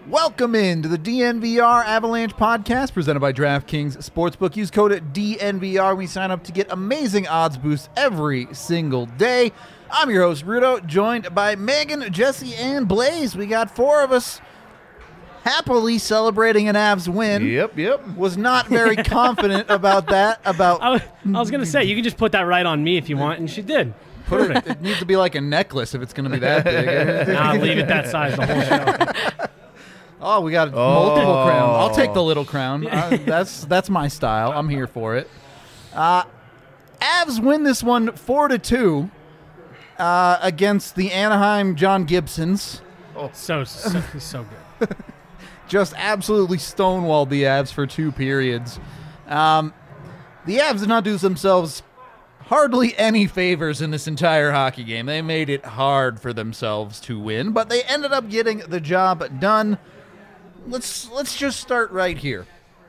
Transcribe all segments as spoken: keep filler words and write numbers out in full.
Welcome into the D N V R Avalanche podcast presented by DraftKings Sportsbook. Use code D N V R when you sign up to get amazing odds boosts every single day. I'm your host, Rudo, joined by Megan, Jesse, and Blaze. We got four of us happily celebrating an Avs win. Yep, yep. Was not very confident about that. About I was, I was going to say, you can just put that right on me if you want, and she did. Put it, it needs to be like a necklace if it's going to be that big. Nah, leave it that size the whole show. Oh, we got Oh. multiple crowns. I'll take the little crown. Uh, that's that's my style. I'm here for it. Uh, Avs win this one four to two uh, against the Anaheim John Gibsons. So, so, so good. Just absolutely stonewalled the Avs for two periods. Um, the Avs did not do themselves hardly any favors in this entire hockey game. They made it hard for themselves to win, but they ended up getting the job done. Let's let's just start right here.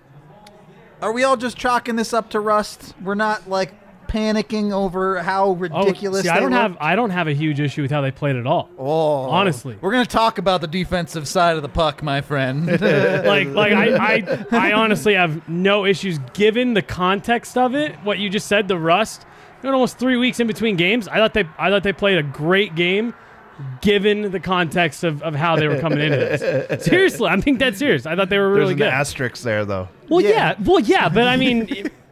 Are we all just chalking this up to rust? We're not like panicking over how ridiculous Oh, see, they I don't look? have I don't have a huge issue with how they played at all. Oh, honestly. We're going to talk about the defensive side of the puck, my friend. like like I, I I honestly have no issues given the context of it. What you just said, the rust. You know, almost three weeks in between games. I thought they I thought they played a great game. Given the context of, of how they were coming into this. Seriously, I'm being dead serious. I thought they were There's really an good. asterisk there, though. Well, Yeah. yeah. Well, yeah, but I mean,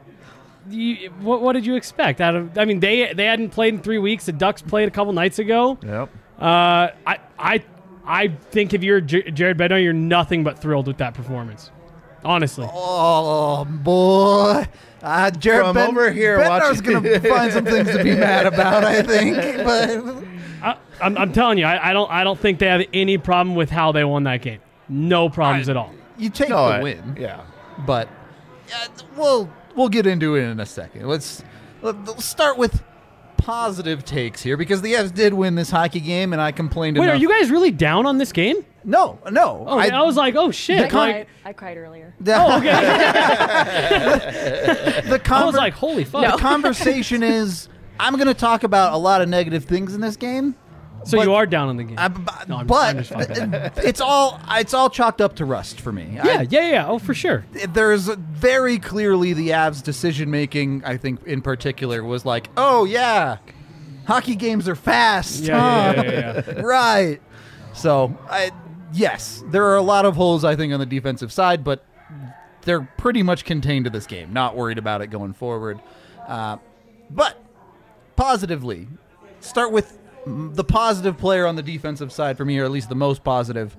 you, what, what did you expect out of? I mean, they they hadn't played in three weeks. The Ducks played a couple nights ago. Yep. Uh, I I I think if you're J- Jared Bednar, you're nothing but thrilled with that performance. Honestly. Oh, boy. Uh, Jared From ben- over here Bednar's watching- going to find some things to be mad about, I think. But I, I'm, I'm telling you, I, I don't I don't think they have any problem with how they won that game. No problems I- at all. you take No, the I- win. Yeah. But uh, we'll we'll get into it in a second. Let's let's start with positive takes here because the Avs did win this hockey game, and I complained Wait, enough. are you guys really down on this game? No, no. Oh, I, was like, oh shit. The I con- cried. I cried earlier. the, oh, okay. the I conver- was like, holy fuck. the conversation is I'm going to talk about a lot of negative things in this game. So but- you are down on the game. I, b- No, I'm- but I'm just fucking. it's all it's all chalked up to rust for me. I- yeah, yeah, yeah. Oh, for sure. There's very clearly the Avs' decision making, I think in particular, was like, oh yeah, hockey games are fast. Yeah, huh? yeah, yeah, yeah, Right. So, I, yes, there are a lot of holes, I think, on the defensive side, but they're pretty much contained to this game. Not worried about it going forward. Uh, but positively, start with the positive player on the defensive side for me, or at least the most positive.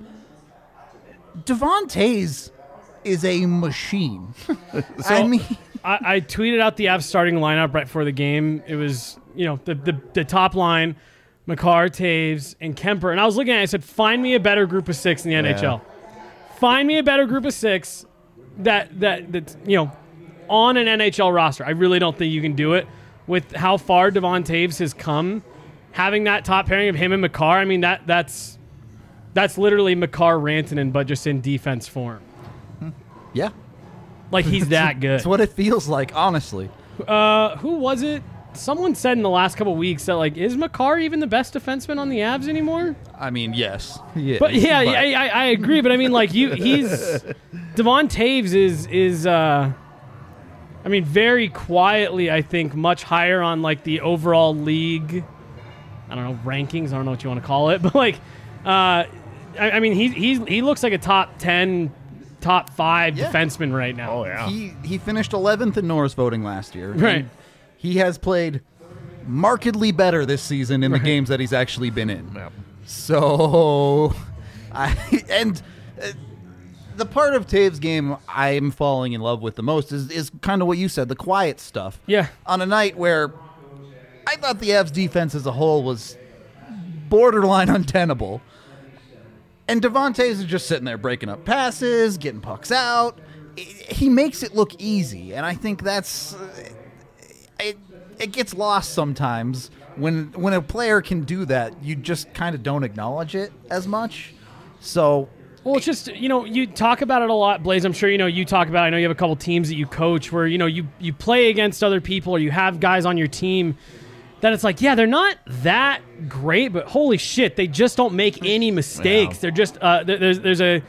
Devon Toews is a machine. I mean, I, I tweeted out the Avs starting lineup right before the game. It was, you know, the the, the top line, Makar, Taves, and Kemper. And I was looking at it, I said, find me a better group of six in the N H L. Find me a better group of six that, that, that, you know, on an N H L roster. I really don't think you can do it with how far Devon Toews has come. Having that top pairing of him and Makar, I mean, that that's that's literally Makar Rantanen, but just in defense form. yeah, Like, he's that good. it's what it feels like, honestly. Uh, who was it? Someone said in the last couple weeks that, like, is Makar even the best defenseman on the Avs anymore? I mean, yes. Yeah, But yeah, but- I, I, I agree. But I mean, like, you, he's Devon Toews is is uh, I mean, very quietly, I think, much higher on like the overall league. I don't know, rankings. I don't know what you want to call it, but like, uh, I, I mean, he he he looks like a top ten, top five Yeah. defenseman right now. Oh, yeah. He he finished eleventh in Norris voting last year. Right. And he has played markedly better this season in the games that he's actually been in. Yep. So, I and uh, the part of Taves' game I'm falling in love with the most is is kind of what you said, the quiet stuff. Yeah. On a night where I thought the Avs defense as a whole was borderline untenable. And Devon Toews is just sitting there breaking up passes, getting pucks out. I- He makes it look easy, and I think that's uh, it. It gets lost sometimes when when a player can do that. You just kind of don't acknowledge it as much. So Well, it's just, you know, you talk about it a lot, Blaze. I'm sure, you know, you talk about it. I know you have a couple teams that you coach where, you know, you, you play against other people or you have guys on your team that it's like, yeah, they're not that great, but holy shit, they just don't make any mistakes. Yeah. They're just, uh, there- there's, there's a,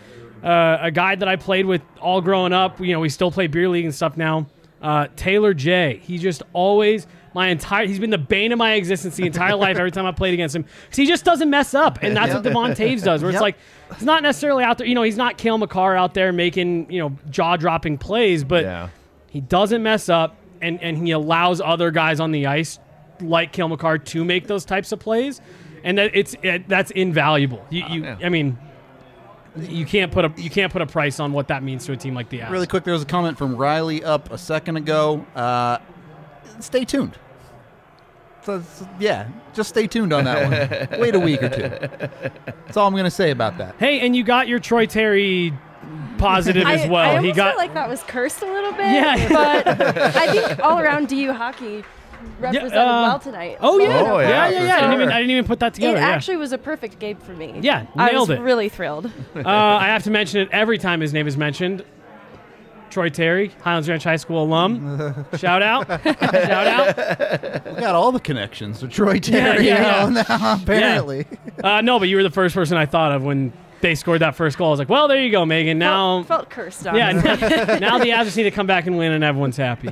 uh, a guy that I played with all growing up. You know, we still play beer league and stuff now. Uh, Taylor J. He just always my entire. He's been the bane of my existence the entire life. Every time I played against him, because he just doesn't mess up, and that's Yep. what Devon Taves does. Where Yep. it's like he's not necessarily out there. You know, he's not Cale Makar out there making you know jaw dropping plays, but Yeah. he doesn't mess up, and and he allows other guys on the ice like Cale Makar to make those types of plays, and that it's it, that's invaluable. You, you yeah. I mean. You can't put a you can't put a price on what that means to a team like the Avs. Really quick, there was a comment from Riley up a second ago. Uh, stay tuned. So, so, yeah, just stay tuned on that one. Wait a week or two. That's all I'm going to say about that. Hey, and you got your Troy Terry positive as I, well. I he almost got felt like that was cursed a little bit. Yeah. But I think all around D U hockey represented uh, well tonight. Oh yeah, Oh, yeah, yeah, yeah, for yeah. I, didn't even, sure. I didn't even put that It together. yeah. actually was a perfect game for me. Yeah, I nailed was it. really thrilled. uh, I have to mention it every time his name is mentioned. Troy Terry, Highlands Ranch High School alum. Shout out, shout out. We got all the connections to Troy Terry yeah, yeah. now, apparently. Uh, no, but you were the first person I thought of when they scored that first goal. I was like, well, there you go, Megan. Now, felt, felt cursed on. yeah, now, now the Avs just need to come back and win, and everyone's happy.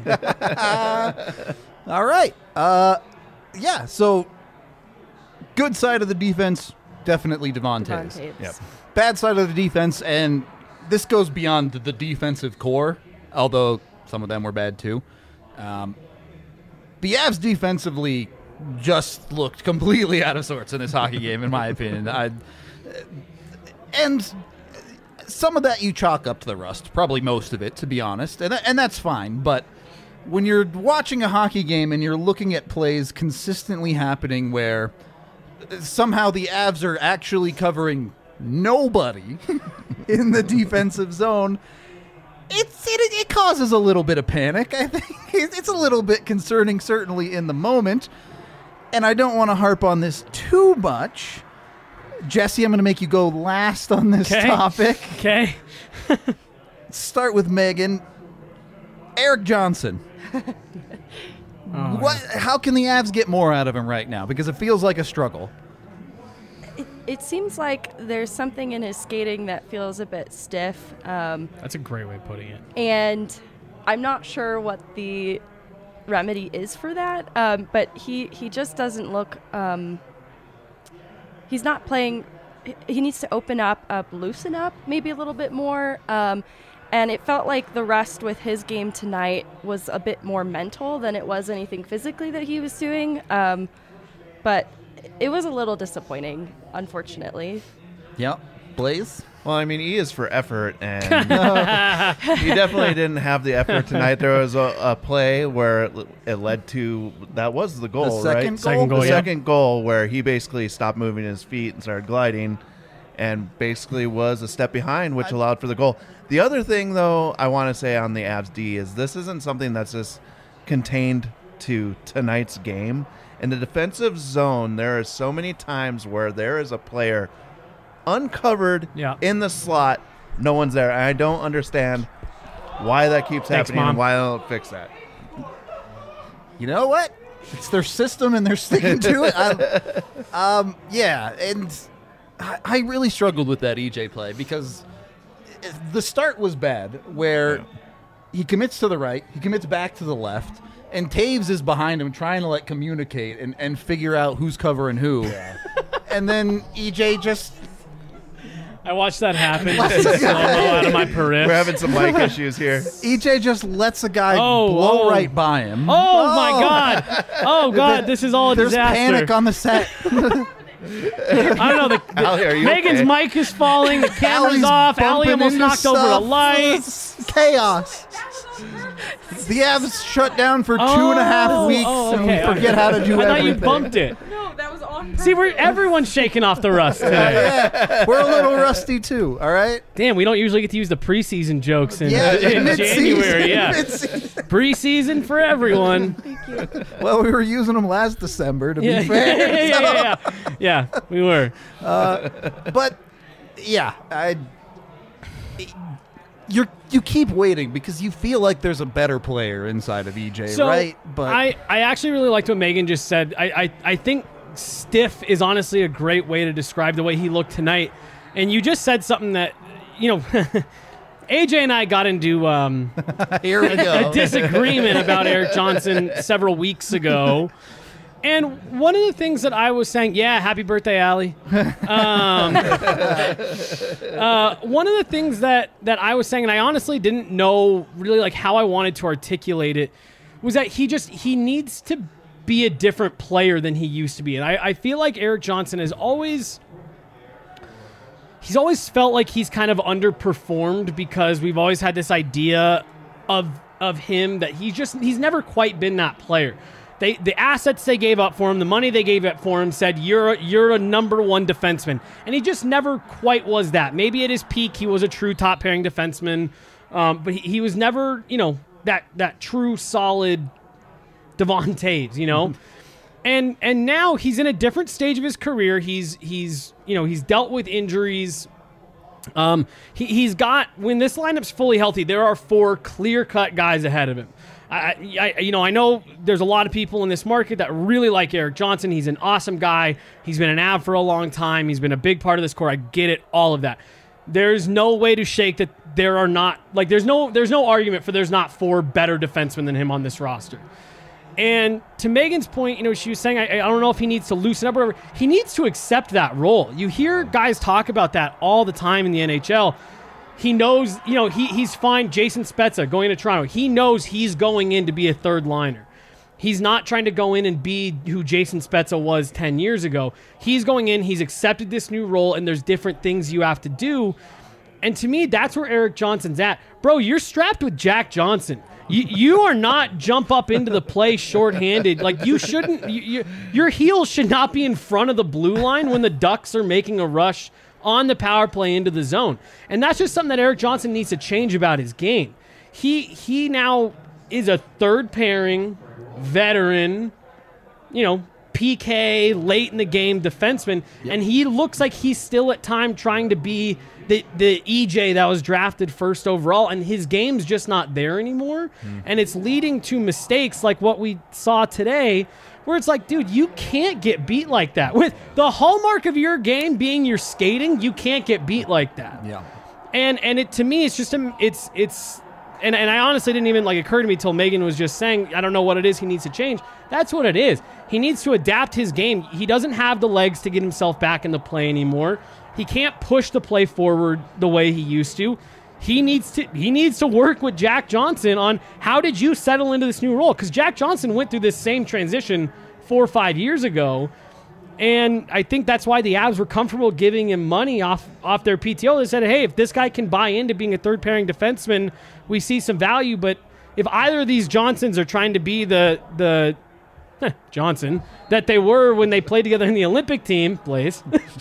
All right. Uh, yeah, so good side of the defense, definitely Devon Devon Taves. Taves. Yep. Bad side of the defense, and this goes beyond the defensive core, although some of them were bad too. Um, the Avs defensively just looked completely out of sorts in this hockey game, in my opinion. I, and some of that you chalk up to the rust, probably most of it, to be honest, and, and that's fine. But when you're watching a hockey game and you're looking at plays consistently happening where somehow the Avs are actually covering nobody in the defensive zone, it's it, it causes a little bit of panic. I think it's a little bit concerning, certainly in the moment. And I don't want to harp on this too much. Jesse, I'm going to make you go last on this Okay. topic. Okay. Start with Megan. Eric Johnson. Oh, What? How can the Avs get more out of him right now? Because it feels like a struggle. It, it seems like there's something in his skating that feels a bit stiff. Um, That's a great way of putting it. and I'm not sure what the remedy is for that. Um, but he, he just doesn't look. Um, he's not playing. he- He needs to open up, up, loosen up, maybe a little bit more. Um, and it felt like the rest with his game tonight was a bit more mental than it was anything physically that he was doing. Um, but it was a little disappointing, unfortunately. Yep. Blaze? Well, I mean, E is for effort, and he definitely didn't have the effort tonight. There was a, a play where it, it led to that was the goal, The second right? goal? Second goal, the yeah. second goal where he basically stopped moving his feet and started gliding, and basically was a step behind, which allowed for the goal. The other thing, though, I want to say on the Avs D is this isn't something that's just contained to tonight's game. In the defensive zone, there are so many times where there is a player uncovered Yeah. in the slot, no one's there. And I don't understand why that keeps Thanks, happening Mom. and why they don't fix that. You know what? It's their system and they're sticking to it. I, um, yeah, and I, I really struggled with that E J play because the start was bad where Yeah. he commits to the right, he commits back to the left, and Taves is behind him trying to like communicate and, and figure out who's covering who. And then E J just I watched that happen in slow-mo out of my periphery. We're having some mic issues here. E J just lets a guy Oh, blow oh. right by him. Oh, my God! Oh God! This is all a There's disaster. panic on the set. I don't know. The, the- Allie, are you Megan's okay? mic is falling. The camera's Allie's off. Allie bumping almost into knocked over the stuff. light. It's chaos. The Avs shut down for two and a half Oh, weeks oh, and okay. we forget how to do I thought everything. you bumped it. No, that was on purpose. See, we're everyone's shaking off the rust today. Yeah, we're a little rusty too. All right. Damn, we don't usually get to use the preseason jokes in, Yeah, in mid-season. January. Yeah, Mid-season. preseason for everyone. Thank you. Well, we were using them last December to Yeah, be fair. yeah, yeah, yeah, yeah. Yeah, we were. But yeah, I. You you keep waiting because you feel like there's a better player inside of E J, So right? But I, I actually really liked what Megan just said. I, I, I think stiff is honestly a great way to describe the way he looked tonight. And you just said something that you know, A J and I got into um, Here we go. a disagreement about Erik Johnson several weeks ago. And one of the things that I was saying, yeah, happy birthday, Allie. Um, uh, one of the things that, that I was saying, and I honestly didn't know really like how I wanted to articulate it, was that he just, he needs to be a different player than he used to be. And I, I feel like Erik Johnson has always, he's always felt like he's kind of underperformed because we've always had this idea of, of him that he's just, he's never quite been that player. They, the assets they gave up for him, the money they gave up for him said, you're a, you're a number one defenseman. And he just never quite was that. Maybe at his peak, he was a true top pairing defenseman. Um, but he, he was never, you know, that that true solid Devon Toews, you know? and and now he's in a different stage of his career. He's, he's you know, he's dealt with injuries. Um, he, he's got, when this lineup's fully healthy, there are four clear-cut guys ahead of him. I, I, you know, I know there's a lot of people in this market that really like Erik Johnson. He's an awesome guy. He's been an Av for a long time. He's been a big part of this core. I get it, all of that. There's no way to shake that there are not, like, there's no, there's no argument for there's not four better defensemen than him on this roster. And to Megan's point, you know, she was saying, I, I don't know if he needs to loosen up or whatever. He needs to accept that role. You hear guys talk about that all the time in the N H L. He knows, you know, he he's fine. Jason Spezza going to Toronto. He knows he's going in to be a third liner. He's not trying to go in and be who Jason Spezza was ten years ago. He's going in, he's accepted this new role, and there's different things you have to do. And to me, that's where Erik Johnson's at. Bro, you're strapped with Jack Johnson. You, you are not jump up into the play shorthanded. Like, you shouldn't, you, you, your heels should not be in front of the blue line when the Ducks are making a rush on the power play into the zone. And that's just something that Erik Johnson needs to change about his game. He he now is a third pairing, veteran, you know, P K, late in the game defenseman, yep. And he looks like he's still at time trying to be the, the E J that was drafted first overall, and his game's just not there anymore. Mm. And it's leading to mistakes like what we saw today, where it's like, dude, you can't get beat like that. With the hallmark of your game being your skating, you can't get beat like that. Yeah. And and it to me, it's just a, it's it's and, and I honestly didn't even like occur to me till Megan was just saying, I don't know what it is he needs to change. That's what it is. He needs to adapt his game. He doesn't have the legs to get himself back in the play anymore. He can't push the play forward the way he used to. He needs to he needs to work with Jack Johnson on how did you settle into this new role? Because Jack Johnson went through this same transition four or five years ago, and I think that's why the Avs were comfortable giving him money off off their P T O. They said, hey, if this guy can buy into being a third-pairing defenseman, we see some value. But if either of these Johnsons are trying to be the the Johnson that they were when they played together in the Olympic team, Blaze.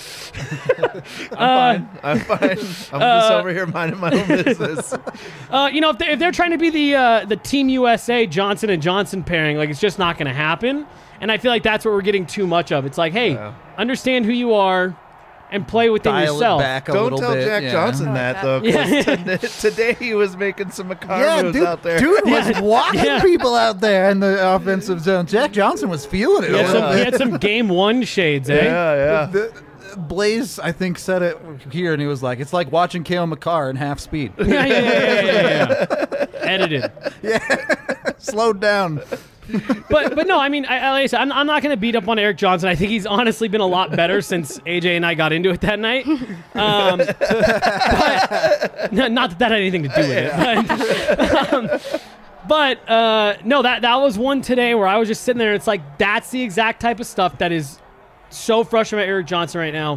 I'm uh, fine. I'm fine. I'm uh, just over here minding my own business. Uh, you know, if, they, if they're trying to be the uh, the Team U S A Johnson and Johnson pairing, like, it's just not going to happen. And I feel like that's what we're getting too much of. It's like, hey, yeah. understand who you are and play within Dial yourself. It back a Don't little tell bit. Jack yeah. Johnson that, though, because Yeah. t- today he was making some Makar Yeah, moves dude, out there. dude was Yeah. walking Yeah. people out there in the offensive zone. Jack Johnson was feeling it. He a had, little some, bit. he had some game one shades, eh? Yeah, yeah. The, Blaze, I think, said it here, and he was like, it's like watching Cale Makar in half speed. Yeah, yeah, yeah, yeah, yeah, yeah. Edited. Yeah. Slowed down. But but no, I mean, I, like I said, I'm, I'm not going to beat up on Erik Johnson. I think he's honestly been a lot better since A J and I got into it that night. Um, but, no, not that that had anything to do with it. But, um, but uh, no, that, that was one today where I was just sitting there. And it's like, that's the exact type of stuff that is so frustrating about Erik Johnson right now.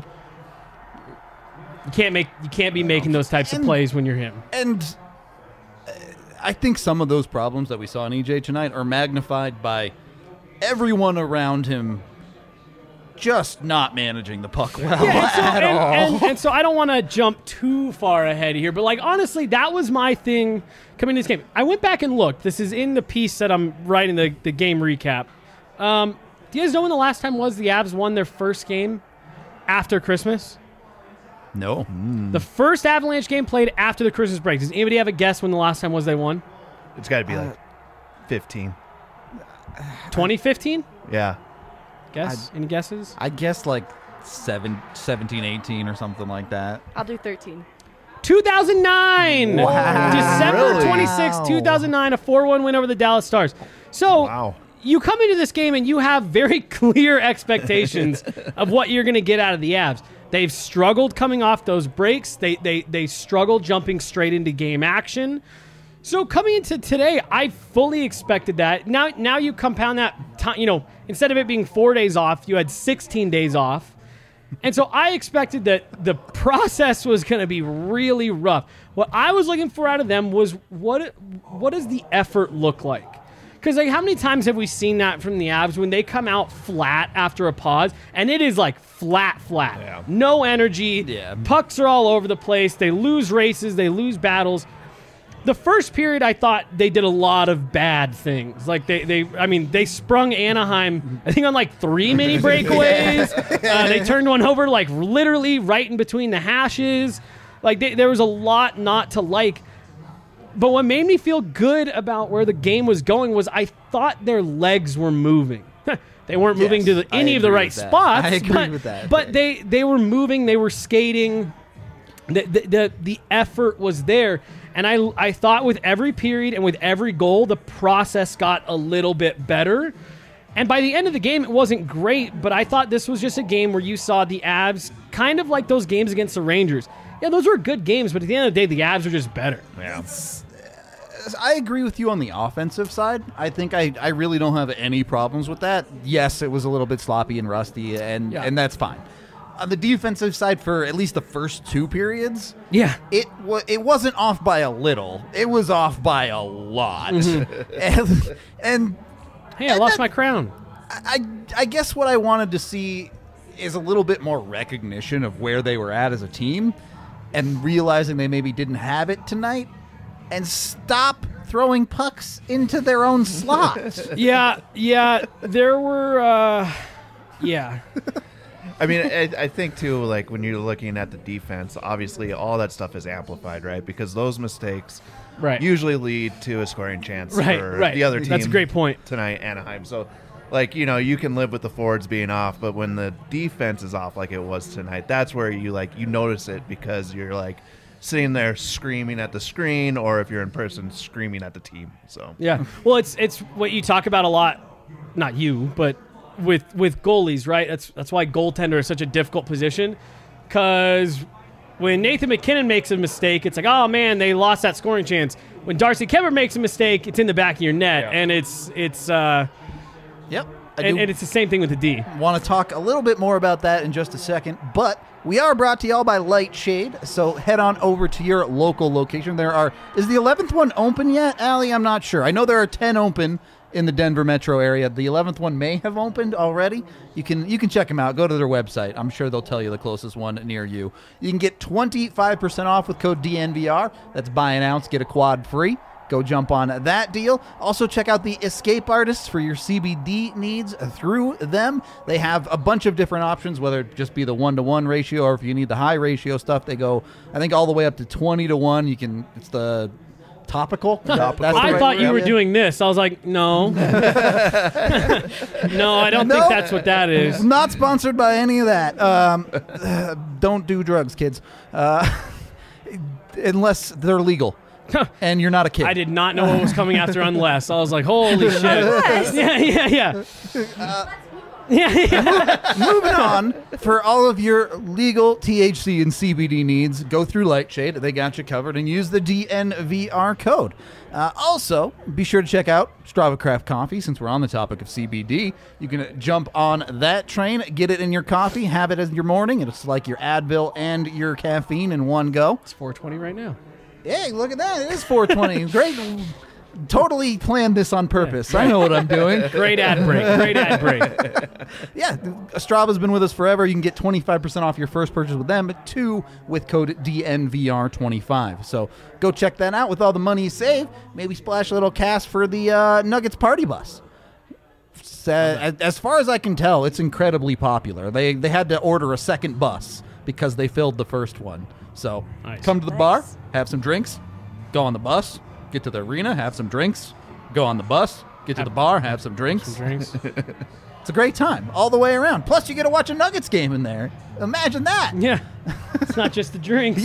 You can't make you can't be making those types and, of plays when you're him. And uh, I think some of those problems that we saw in E J tonight are magnified by everyone around him just not managing the puck well Yeah, and so, at and, all. And, and so I don't want to jump too far ahead here, but like honestly, that was my thing coming to this game. I went back and looked. This is in the piece that I'm writing the, the game recap. Um, do you guys know when the last time was the Avs won their first game after Christmas? No. The first Avalanche game played after the Christmas break. Does anybody have a guess when the last time was they won? It's got to be like fifteen. twenty fifteen? Yeah. Guess? Any guesses? I guess like seven, seventeen, eighteen or something like that. I'll do thirteen. two thousand nine. Wow. December Really? twenty-sixth, two thousand nine, a four one win over the Dallas Stars. So Wow. you come into this game and you have very clear expectations of what you're going to get out of the Avs. They've struggled coming off those breaks. They they they struggled jumping straight into game action. So coming into today, I fully expected that. Now now you compound that time, you know, instead of it being four days off, you had sixteen days off. And so I expected that the process was going to be really rough. What I was looking for out of them was what what does the effort look like? Because like, how many times have we seen that from the Avs when they come out flat after a pause, and it is like flat, flat, Yeah. no energy, Yeah. pucks are all over the place, they lose races, they lose battles. The first period, I thought they did a lot of bad things. Like they, they, I mean, they sprung Anaheim, I think, on like three mini breakaways. uh, they turned one over like literally right in between the hashes. Like they, there was a lot not to like. But what made me feel good about where the game was going was I thought their legs were moving. They weren't moving Yes, to the, I any of the agree right with that. spots. I agree but, with that. But they, they were moving. They were skating. The, the, the, the effort was there. And I, I thought with every period and with every goal, the process got a little bit better. And by the end of the game, it wasn't great, but I thought this was just a game where you saw the Avs kind of like those games against the Rangers. Yeah, those were good games, but at the end of the day, the Avs were just better. Yeah. I agree with you on the offensive side. I think I, I really don't have any problems with that. Yes, it was a little bit sloppy and rusty, and, Yeah. and that's fine. On the defensive side, for at least the first two periods, Yeah. it wa- it wasn't off by a little. It was off by a lot. and, and Hey, I lost my crown. I I guess what I wanted to see is a little bit more recognition of where they were at as a team, and realizing they maybe didn't have it tonight, and stop throwing pucks into their own slot. Yeah, yeah, there were, uh, yeah. I mean, I, I think too, like when you're looking at the defense, obviously all that stuff is amplified, right? Because those mistakes Right. usually lead to a scoring chance Right, for right. the other team. That's a great point. Tonight, Anaheim. So, like, you know, you can live with the forwards being off, but when the defense is off like it was tonight, that's where you, like, you notice it because you're, like, sitting there screaming at the screen, or if you're in person, screaming at the team. So, Yeah. Well, it's it's what you talk about a lot, not you, but with with goalies, right? That's that's why goaltender is such a difficult position, because when Nathan McKinnon makes a mistake, it's like, oh man, they lost that scoring chance. When Darcy Kemper makes a mistake, it's in the back of your net, Yeah. and it's it's uh, Yep. I and, do and it's the same thing with the D. want to talk a little bit more about that in just a second, but we are brought to y'all by Lightshade, so head on over to your local location. There are is the eleventh one open yet, Allie? I'm not sure. I know there are ten open in the Denver metro area. The eleventh one may have opened already. You can you can check them out. Go to their website. I'm sure they'll tell you the closest one near you. You can get twenty-five percent off with code D N V R. That's buy an ounce, get a quad free. Go jump on that deal. Also, check out the Escape Artists for your C B D needs through them. They have a bunch of different options, whether it just be the one-to-one ratio or if you need the high ratio stuff, they go, I think, all the way up to twenty to one. You can, it's the topical. That's the I right thought you word. were doing this. I was like, no. no, I don't No. think that's what that is. Not sponsored by any of that. Um, don't do drugs, kids. Uh, unless they're legal. And you're not a kid. I did not know what was coming after unless. I was like, holy shit. Unless. Yeah, yeah, yeah. yeah, yeah. Moving on, for all of your legal T H C and C B D needs, go through Lightshade. They got you covered, and use the D N V R code. Uh, also, be sure to check out Strava Craft Coffee. Since we're on the topic of C B D, you can jump on that train, get it in your coffee, have it as your morning. It's like your Advil and your caffeine in one go. It's four twenty right now. Hey, look at that. It is four twenty. Great. Totally planned this on purpose. I know what I'm doing. Great ad break. Great ad break. Yeah, Strava's been with us forever. You can get twenty-five percent off your first purchase with them, but two with code D N V R twenty-five. So go check that out. With all the money you save, maybe splash a little cash for the uh, Nuggets party bus. So, as far as I can tell, it's incredibly popular. They they had to order a second bus because they filled the first one. So Nice. come to the Nice. bar, have some drinks, go on the bus, get to the arena, have some drinks, go on the bus, get to Have the bar, have some drinks. Some drinks. It's a great time all the way around. Plus, you get to watch a Nuggets game in there. Imagine that. Yeah. It's not just the drinks.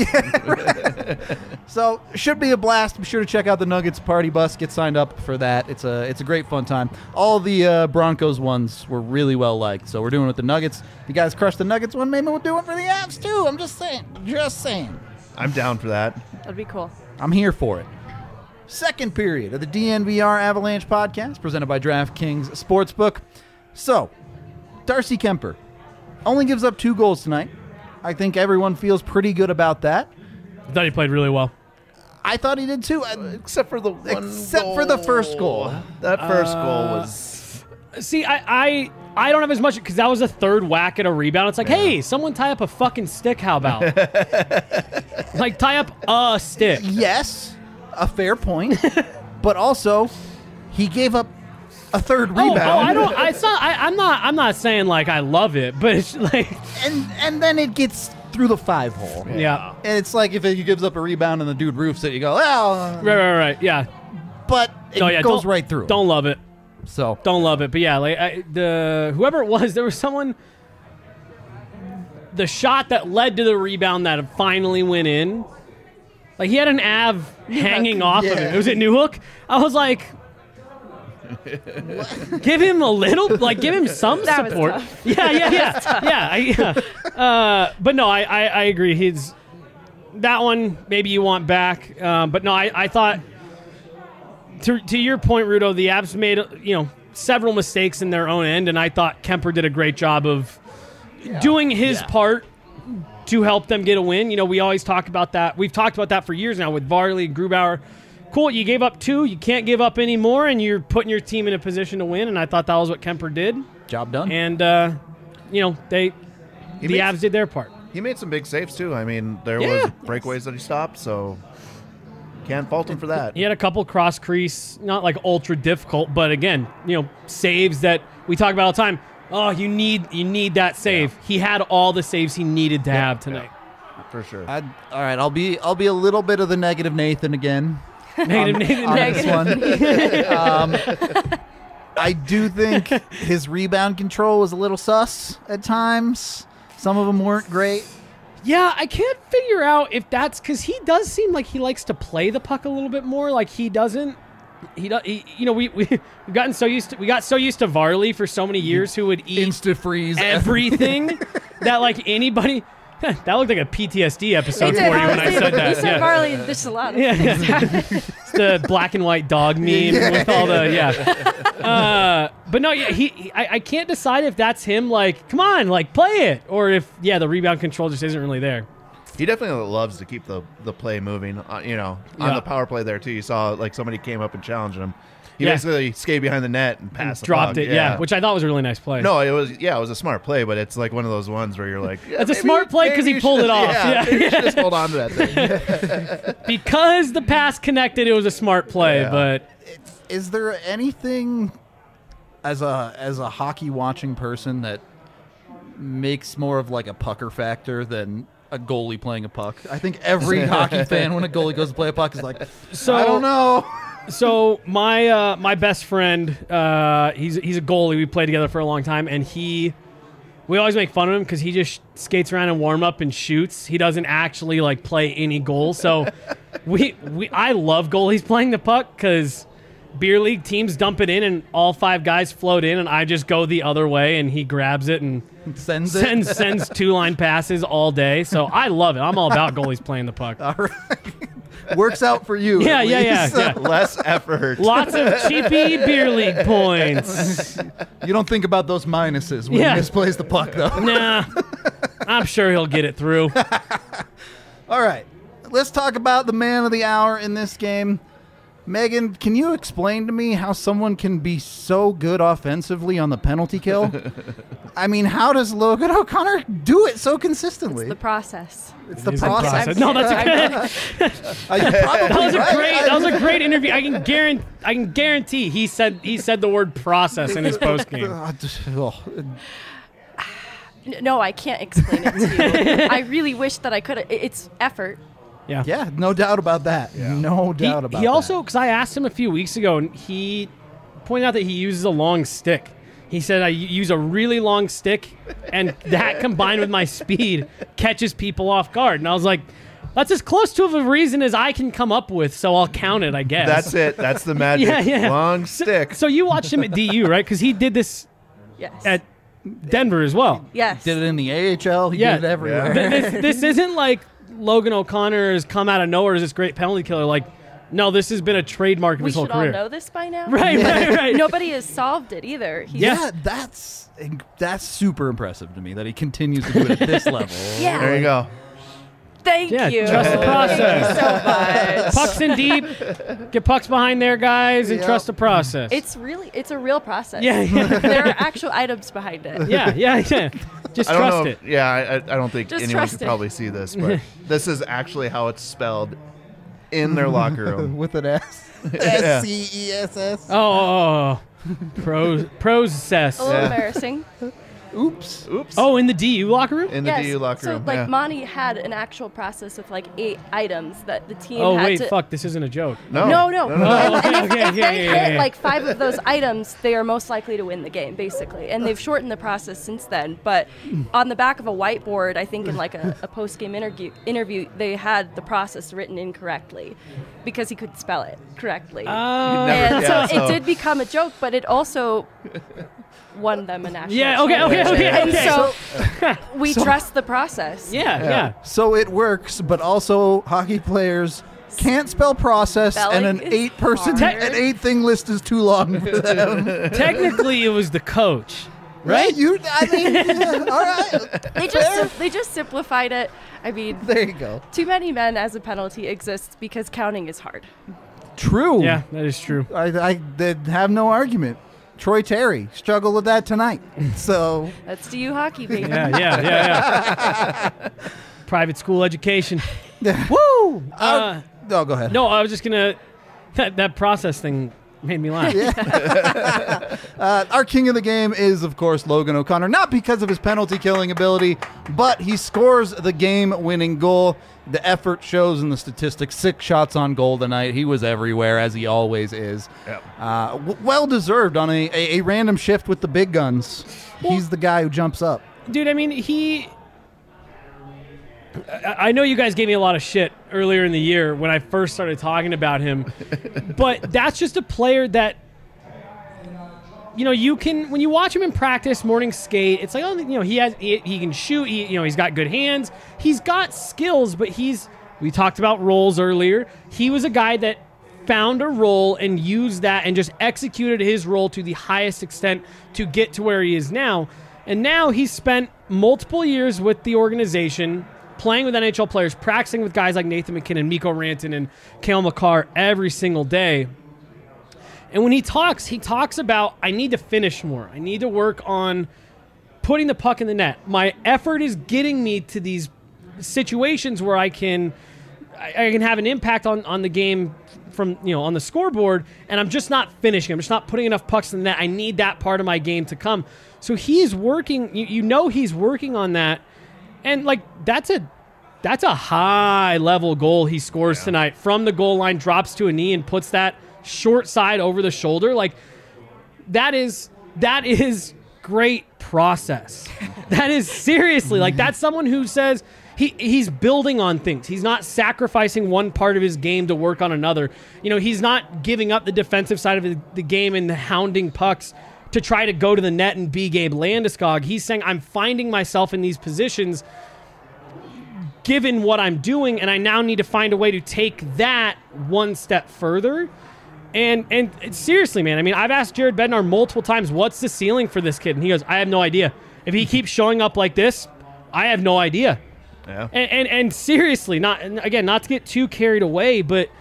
So should be a blast. Be sure to check out the Nuggets party bus. Get signed up for that. It's a it's a great fun time. All the uh, Broncos ones were really well liked. So we're doing it with the Nuggets. If you guys crush the Nuggets one, maybe we'll do it for the Avs too. I'm just saying. Just saying. I'm down for that. That'd be cool. I'm here for it. Second period of the D N V R Avalanche podcast presented by DraftKings Sportsbook. So, Darcy Kemper only gives up two goals tonight. I think everyone feels pretty good about that. I thought he played really well. I thought he did too. Except for the one Except goal. for the first goal. That first Uh, goal was... See, I, I I don't have as much because that was a third whack at a rebound. It's like, Yeah. hey, someone tie up a fucking stick. How about? Like, tie up a stick. Yes, a fair point. But also, he gave up a third Oh, rebound. oh, I don't. I, it's not. I, I'm not. I'm not saying like I love it, but it's like, and and then it gets through the five hole. yeah. And it's like if he gives up a rebound and the dude roofs it, you go, oh. Right, right, right. Yeah. But it No, yeah. goes don't- right through. Don't love it. So Don't love it. But yeah, like I, the whoever it was, there was someone. The shot that led to the rebound that finally went in, like he had an Av hanging off of yeah. it. Was it Newhook? I was like, give him a little, like give him some That was support. tough. Yeah, yeah, yeah, yeah, I, yeah. Uh, but no, I, I, I agree. He's that one. Maybe you want back, um, but no, I, I thought. To, to your point, Rudo, the Avs made you know several mistakes in their own end, and I thought Kemper did a great job of doing his Yeah. part to help them get a win. You know, we always talk about that. We've talked about that for years now with Varley, Grubauer. Cool, you gave up two. You can't give up any more, and you're putting your team in a position to win, and I thought that was what Kemper did. job done. And, uh, you know, they He the makes- Avs did their part. He made some big saves, too. I mean, there Yeah. was breakaways that he stopped, so can't fault him for that. He had a couple cross crease, not like ultra difficult, but again, you know, saves that we talk about all the time. Oh, you need you need that save. He had all the saves he needed to have tonight. For sure. I'd, all right, I'll be I'll be a little bit of the negative Nathan again. Negative, negative, on negative. this one. um, I do think his rebound control was a little sus at times. Some of them weren't great. Yeah, I can't figure out if that's because he does seem like he likes to play the puck a little bit more. Like he doesn't. He does. He, you know, we we we've gotten so used to we got so used to Varley for so many years, who would eat Insta freeze everything that like anybody. That looked like a P T S D episode It for did, you when I honestly. said that. You said yeah. Varley, there's a lot of Yeah, things. yeah. It's the black and white dog meme with all the yeah. Uh, but no, yeah, he. he I, I can't decide if that's him. Like, come on, like play it, or if yeah, the rebound control just isn't really there. He definitely loves to keep the, the play moving, uh, you know, on Yeah. the power play there, too. You saw, like, somebody came up and challenged him. He Yeah. basically skated behind the net and passed the Dropped puck. it, yeah. which I thought was a really nice play. No, it was, yeah, it was a smart play, but it's like one of those ones where you're like, yeah, That's a maybe- smart play 'cause maybe he you pulled should- it off. Yeah, Yeah. maybe you should just hold on to that thing. because the pass connected, it was a smart play. Yeah. But Is there anything as a as a hockey watching person that makes more of like a pucker factor than a goalie playing a puck? I think every hockey fan when a goalie goes to play a puck is like, so I don't know. So my uh, my best friend, uh, he's he's a goalie. We played together for a long time, and he, we always make fun of him because he just skates around and warm up and shoots. He doesn't actually like play any goals. So we we I love goalies playing the puck because beer league teams dump it in and all five guys float in, and I just go the other way, and he grabs it and Sends it. sends sends two line passes all day. So I love it. I'm all about goalies playing the puck. All right. Works out for you. Yeah, at yeah, yeah, least. yeah. Less effort. Lots of cheapy beer league points. You don't think about those minuses when Yeah. he misplays the puck, though. Nah, I'm sure he'll get it through. All right. Let's talk about the man of the hour in this game. Megan, can you explain to me how someone can be so good offensively on the penalty kill? I mean, how does Logan O'Connor do it so consistently? The process. It's the It's the process. process. No, that's a good. Uh, you're probably That was a right. great. That was a great interview. I can guarantee. I can guarantee he said he said the word process in his post game. Uh, just- oh, N- No, I can't explain it to you. I really wish that I could. I- It's effort. Yeah. yeah, no doubt about that. No He, doubt about he that. also, because I asked him a few weeks ago, and he pointed out that he uses a long stick. He said I use a really long stick, and that combined with my speed catches people off guard. And I was like, that's as close to a reason as I can come up with, so I'll count it, I guess. That's it. That's the magic. Yeah, yeah. Long So, stick. so you watched him at D U, right? Because he did this Yes. at Denver as well. yes. Did it in the A H L. He Yeah. did it everywhere. Th- this, this isn't like Logan O'Connor has come out of nowhere as this great penalty killer. Like, no, this has been a trademark of We his whole should all career. know this by now. Right, right, right. Nobody has solved it either. He's Yeah. Yeah, that's that's super impressive to me that he continues to do it at this level. Yeah. There you go. Thank Yeah, you. trust the process. Thank you so much. Pucks in deep. Get pucks behind there, guys, and Yep. trust the process. It's really, it's a real process. Yeah, yeah. There are actual items behind it. yeah, yeah, yeah. Just I don't trust know. it. Yeah, I, I I don't think Just anyone trust could it. probably see this, but this is actually how it's spelled in their locker room. With an S. Yeah. S C E S S. Oh, oh, oh. Pros, process. A little Yeah. embarrassing. Oops. Oops. Oh, in the D U locker room? In the yes. D U locker so room. like yeah. Monty had an actual process of like eight items that the team Oh, had wait, to. fuck. This isn't a joke. no. No, no. no, no. Oh, And, and okay, if, okay, if okay, they yeah, hit yeah, yeah. like five of those items, they are most likely to win the game, basically. And they've shortened the process since then. But on the back of a whiteboard, I think in like a, a post-game interview, interview, they had the process written incorrectly because he couldn't spell it correctly. Oh. never- and yeah, so, so- it did become a joke, but it also won them a national Yeah, okay, okay, championship. okay, And okay. so we trust the process. Yeah, yeah. So it works, but also hockey players can't spell process, Spelling and an is eight-person, hard. an eight-thing list is too long for them. Technically, it was the coach, right? Yeah, you. I mean, yeah, all right. They just sim- they just simplified it. I mean, There you go. too many men as a penalty exists because counting is hard. True. Yeah, that is true. I, I did have no argument. Troy Terry struggled with that tonight. So That's D U hockey, baby. Yeah, yeah, yeah, yeah. Private school education. yeah. Woo! Uh, Oh, go ahead. no, I was just gonna. That that process thing made me laugh. Uh, our king of the game is, of course, Logan O'Connor. Not because of his penalty killing ability, but he scores the game-winning goal. The effort shows in the statistics. Six shots on goal tonight. He was everywhere, as he always is. Yep. Uh, w- well deserved on a, a, a random shift with the big guns. He's the guy who jumps up. Dude, I mean, he. I I know you guys gave me a lot of shit earlier in the year when I first started talking about him, but that's just a player that, you know, you can when you watch him in practice, morning skate. It's like, oh, you know, he has he, he can shoot. He, you know, he's got good hands. He's got skills, but he's. We talked about roles earlier. He was a guy that found a role and used that and just executed his role to the highest extent to get to where he is now. And now he's spent multiple years with the organization, playing with N H L players, practicing with guys like Nathan McKinnon, Mikko Rantanen, and Cale Makar every single day. And when he talks, he talks about, I need to finish more. I need to work on putting the puck in the net. My effort is getting me to these situations where I can I, I can have an impact on, on the game from, you know, on the scoreboard, and I'm just not finishing. I'm just not putting enough pucks in the net. I need that part of my game to come. So he's working, you, you know he's working on that. And like that's a that's a high level goal he scores Yeah. tonight from the goal line, drops to a knee and puts that short side over the shoulder. Like that is that is great process. That is seriously like that's someone who says he he's building on things. He's not sacrificing one part of his game to work on another. You know, he's not giving up the defensive side of the, the game and hounding pucks to try to go to the net and be Gabe Landeskog. He's saying, I'm finding myself in these positions given what I'm doing, and I now need to find a way to take that one step further. And and seriously, man, I mean, I've asked Jared Bednar multiple times, what's the ceiling for this kid? And he goes, I have no idea. If he keeps showing up like this, I have no idea. Yeah. And, and and seriously, not again, not to get too carried away, but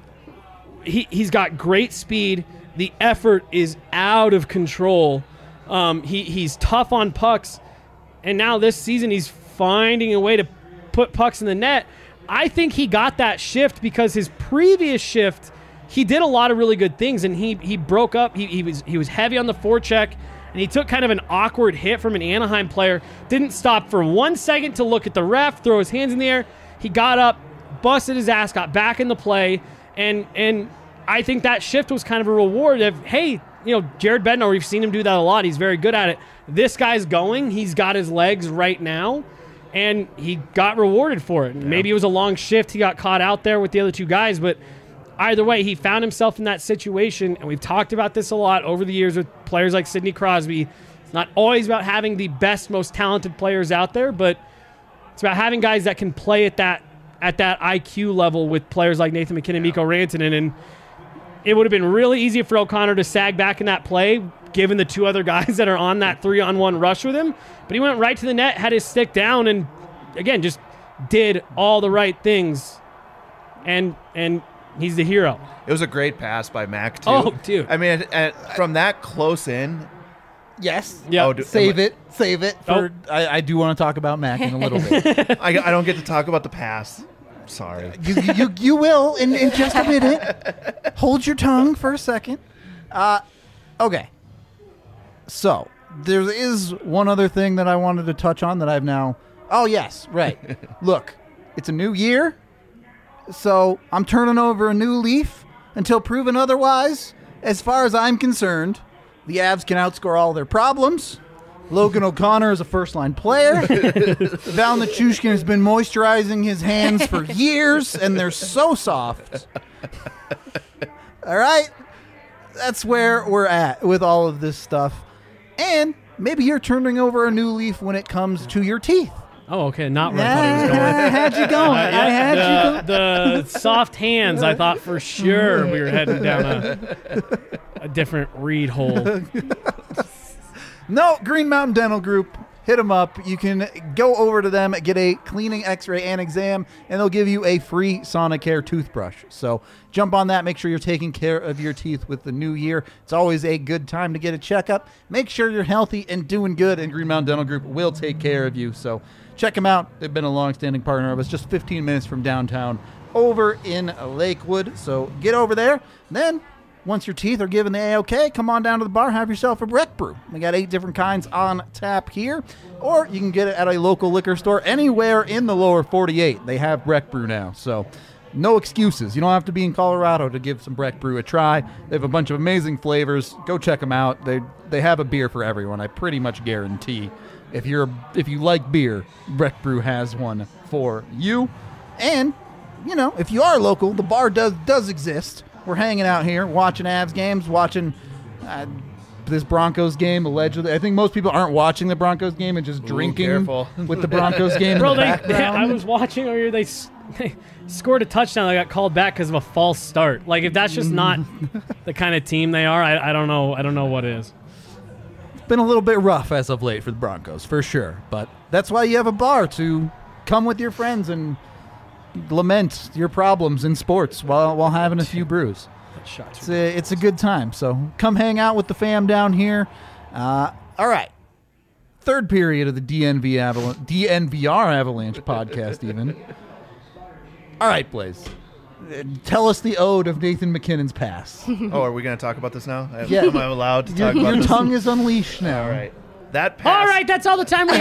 he he's got great speed. The effort is out of control. Um, he he's tough on pucks, and now this season he's finding a way to put pucks in the net. I think he got that shift because his previous shift, he did a lot of really good things, and he he broke up. He he was he was heavy on the forecheck, and he took kind of an awkward hit from an Anaheim player. Didn't stop for one second to look at the ref, throw his hands in the air. He got up, busted his ass, got back in the play, and and I think that shift was kind of a reward of, hey, you know, Jared Bednar, we've seen him do that a lot. He's very good at it. This guy's going. He's got his legs right now, and he got rewarded for it. Yeah. Maybe it was a long shift. He got caught out there with the other two guys, but either way, he found himself in that situation, and we've talked about this a lot over the years with players like Sidney Crosby. It's not always about having the best, most talented players out there, but it's about having guys that can play at that at that I Q level with players like Nathan MacKinnon, yeah. Mikko Rantanen, and it would have been really easy for O'Connor to sag back in that play, given the two other guys that are on that three-on-one rush with him. But he went right to the net, had his stick down, and, again, just did all the right things. And and he's the hero. It was a great pass by Mac, too. Oh, dude. I mean, at, from that close in. Yes. Yeah. Oh, save it. Save it. For, oh. I, I do want to talk about Mac in a little bit. I, I don't get to talk about the pass. Sorry. You, you, you will in, in just a minute. Hold your tongue for a second. Uh, okay. So, there is one other thing that I wanted to touch on that I've now... Oh, yes, right. Look, it's a new year, so I'm turning over a new leaf until proven otherwise. As far as I'm concerned, the Avs can outscore all their problems. Logan O'Connor is a first-line player. Val Nichushkin has been moisturizing his hands for years, and they're so soft. All right? That's where we're at with all of this stuff. And maybe you're turning over a new leaf when it comes to your teeth. Oh, okay. Not where I thought he was going. I had you going. Uh, I had the, you going. The soft hands, I thought for sure we were heading down a, a different reed hole. No, Green Mountain Dental Group. Hit them up. You can go over to them, get a cleaning, x-ray, and exam, and they'll give you a free Sonicare toothbrush. So jump on that. Make sure you're taking care of your teeth with the new year. It's always a good time to get a checkup. Make sure you're healthy and doing good, and Green Mountain Dental Group will take care of you. So check them out. They've been a long-standing partner of us, just fifteen minutes from downtown over in Lakewood. So get over there. Then once your teeth are given the A-OK, come on down to the bar, have yourself a Breck Brew. We got eight different kinds on tap here, or you can get it at a local liquor store anywhere in the lower forty-eight. They have Breck Brew now, so no excuses. You don't have to be in Colorado to give some Breck Brew a try. They have a bunch of amazing flavors. Go check them out. They they have a beer for everyone, I pretty much guarantee. If you're if you like beer, Breck Brew has one for you. And, you know, if you are local, the bar does does exist. We're hanging out here, watching Avs games, watching uh, this Broncos game, allegedly. I think most people aren't watching the Broncos game and just Ooh, drinking careful. with the Broncos game Bro, in the they, background. they, I was watching earlier. They, they scored a touchdown. They got called back because of a false start. Like, if that's just not the kind of team they are, I, I don't know. I don't know what is. It's been a little bit rough as of late for the Broncos, for sure. But that's why you have a bar, to come with your friends and lament your problems in sports while while having a few brews. It's a, it's a good time. So come hang out with the fam down here. Uh, all right. Third period of the D N V Aval- D N V R Avalanche podcast even. All right, Blaze. Uh, Tell us the ode of Nathan MacKinnon's pass. Oh, are we going to talk about this now? Am, Yeah. am I allowed to Your, talk about your this? tongue is unleashed now. All right. That pass. All right, that's all the time we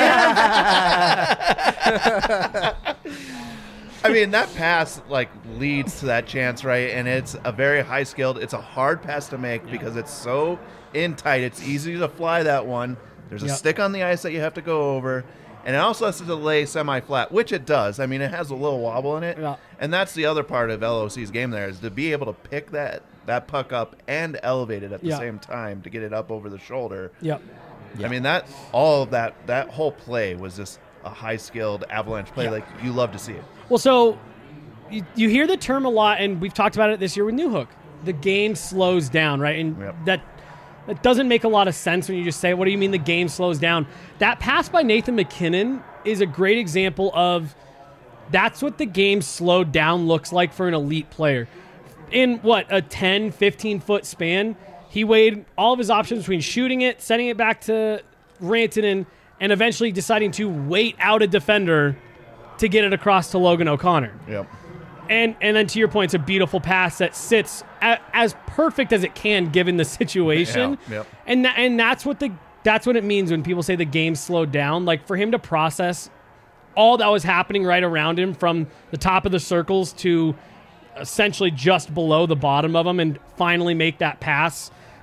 have. I mean, that pass, like, leads to that chance, right? And it's a very high-skilled, it's a hard pass to make because it's so in tight. It's easy to fly that one. There's a Yep. stick on the ice that you have to go over. And it also has to lay semi-flat, which it does. I mean, it has a little wobble in it. Yeah. And that's the other part of L O C's game there, is to be able to pick that, that puck up and elevate it at the Yeah. same time to get it up over the shoulder. Yep. I mean, that all of that, that whole play was just a high-skilled Avalanche play. Yeah. Like, you love to see it. Well, so you, you hear the term a lot, and we've talked about it this year with Newhook. The game slows down, right? And Yep. that that doesn't make a lot of sense when you just say, what do you mean the game slows down? That pass by Nathan MacKinnon is a great example of that's what the game slowed down looks like for an elite player. In, what, a ten, fifteen-foot span, he weighed all of his options between shooting it, sending it back to Rantanen, and eventually deciding to wait out a defender to get it across to Logan O'Connor. Yep. And and then to your point, it's a beautiful pass that sits a, as perfect as it can given the situation. Yeah, yep. And tha- and that's what the that's what it means when people say the game slowed down. Like, for him to process all that was happening right around him, from the top of the circles to essentially just below the bottom of them, and finally make that pass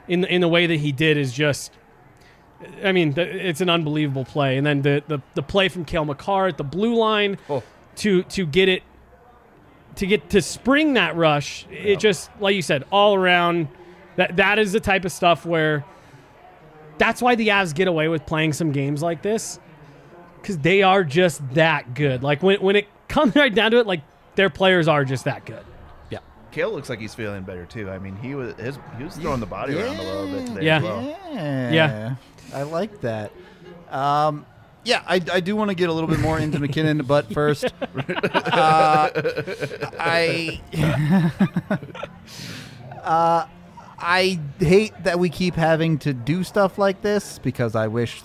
in the, in the way that he did is just, I mean, th- it's an unbelievable play. And then the the, the play from Cale Makar at the blue line Oh. to to get it to get to spring that rush. It just, like you said, all around. That that is the type of stuff where that's why the Avs get away with playing some games like this, because they are just that good. Like when when it comes right down to it, like their players are just that good. Kale looks like he's feeling better too. I mean, he was his, he was throwing the body around a little bit today Yeah. as well. Yeah. Yeah. I like that. Um, yeah, I, I do want to get a little bit more into McKinnon, but first, uh, I uh, I hate that we keep having to do stuff like this because I wish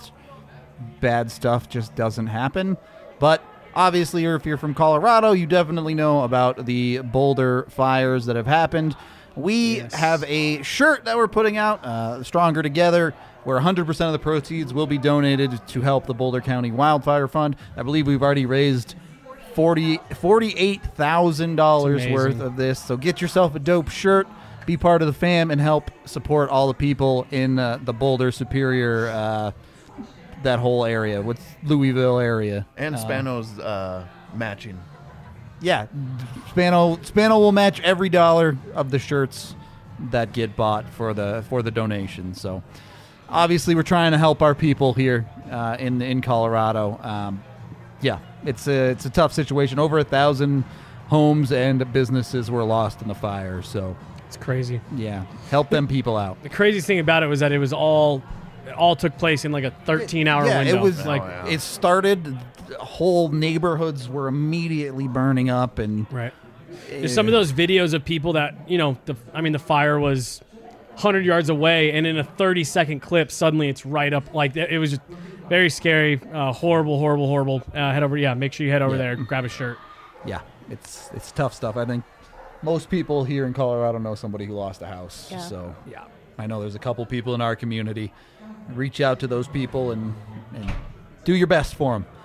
bad stuff just doesn't happen. But obviously, if you're from Colorado, you definitely know about the Boulder fires that have happened. We Yes. have a shirt that we're putting out, uh, Stronger Together, where one hundred percent of the proceeds will be donated to help the Boulder County Wildfire Fund. I believe we've already raised forty, forty-eight thousand dollars It's worth amazing. of this. So get yourself a dope shirt, be part of the fam, and help support all the people in uh, the Boulder, Superior, uh, that whole area, with Louisville area. And Uh, Spano's uh, matching. yeah, Spano Spano will match every dollar of the shirts that get bought for the for the donation. So obviously, we're trying to help our people here uh, in in Colorado. Um, yeah, it's a it's a tough situation. Over a thousand homes and businesses were lost in the fire. So It's crazy. yeah, help them people out. The craziest thing about it was that it was all it all took place in like a thirteen hour Yeah, window. it was like Oh, yeah. it started. Whole neighborhoods were immediately burning up, and right. There's some of those videos of people that, you know, the I mean the fire was one hundred yards away, and in a thirty second clip, suddenly it's right up. Like it was just very scary, uh, horrible, horrible, horrible. Uh, head over, yeah. Make sure you head over Yeah. there, grab a shirt. yeah, it's it's tough stuff. I think most people here in Colorado know somebody who lost a house. Yeah. So Yeah. I know there's a couple people in our community. Reach out to those people and, and do your best for them.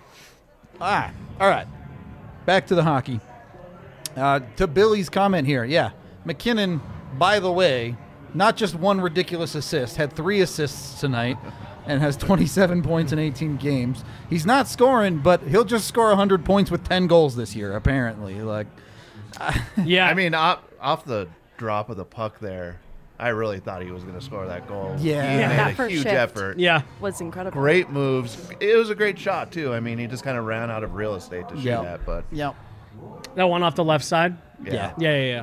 Ah, all right. Back to the hockey. Uh, to Billy's comment here, yeah, McKinnon, by the way, not just one ridiculous assist, had three assists tonight and has twenty-seven points in eighteen games. He's not scoring, but he'll just score one hundred points with ten goals this year, apparently. Like, Yeah. I mean, off, off the drop of the puck there, I really thought he was going to score that goal. Yeah. he Yeah, made that a first huge shift. effort. yeah. Was incredible. Great moves. It was a great shot too. I mean, he just kind of ran out of real estate to shoot Yeah. at, but yeah. That one off the left side. yeah. Yeah. Yeah, yeah, yeah.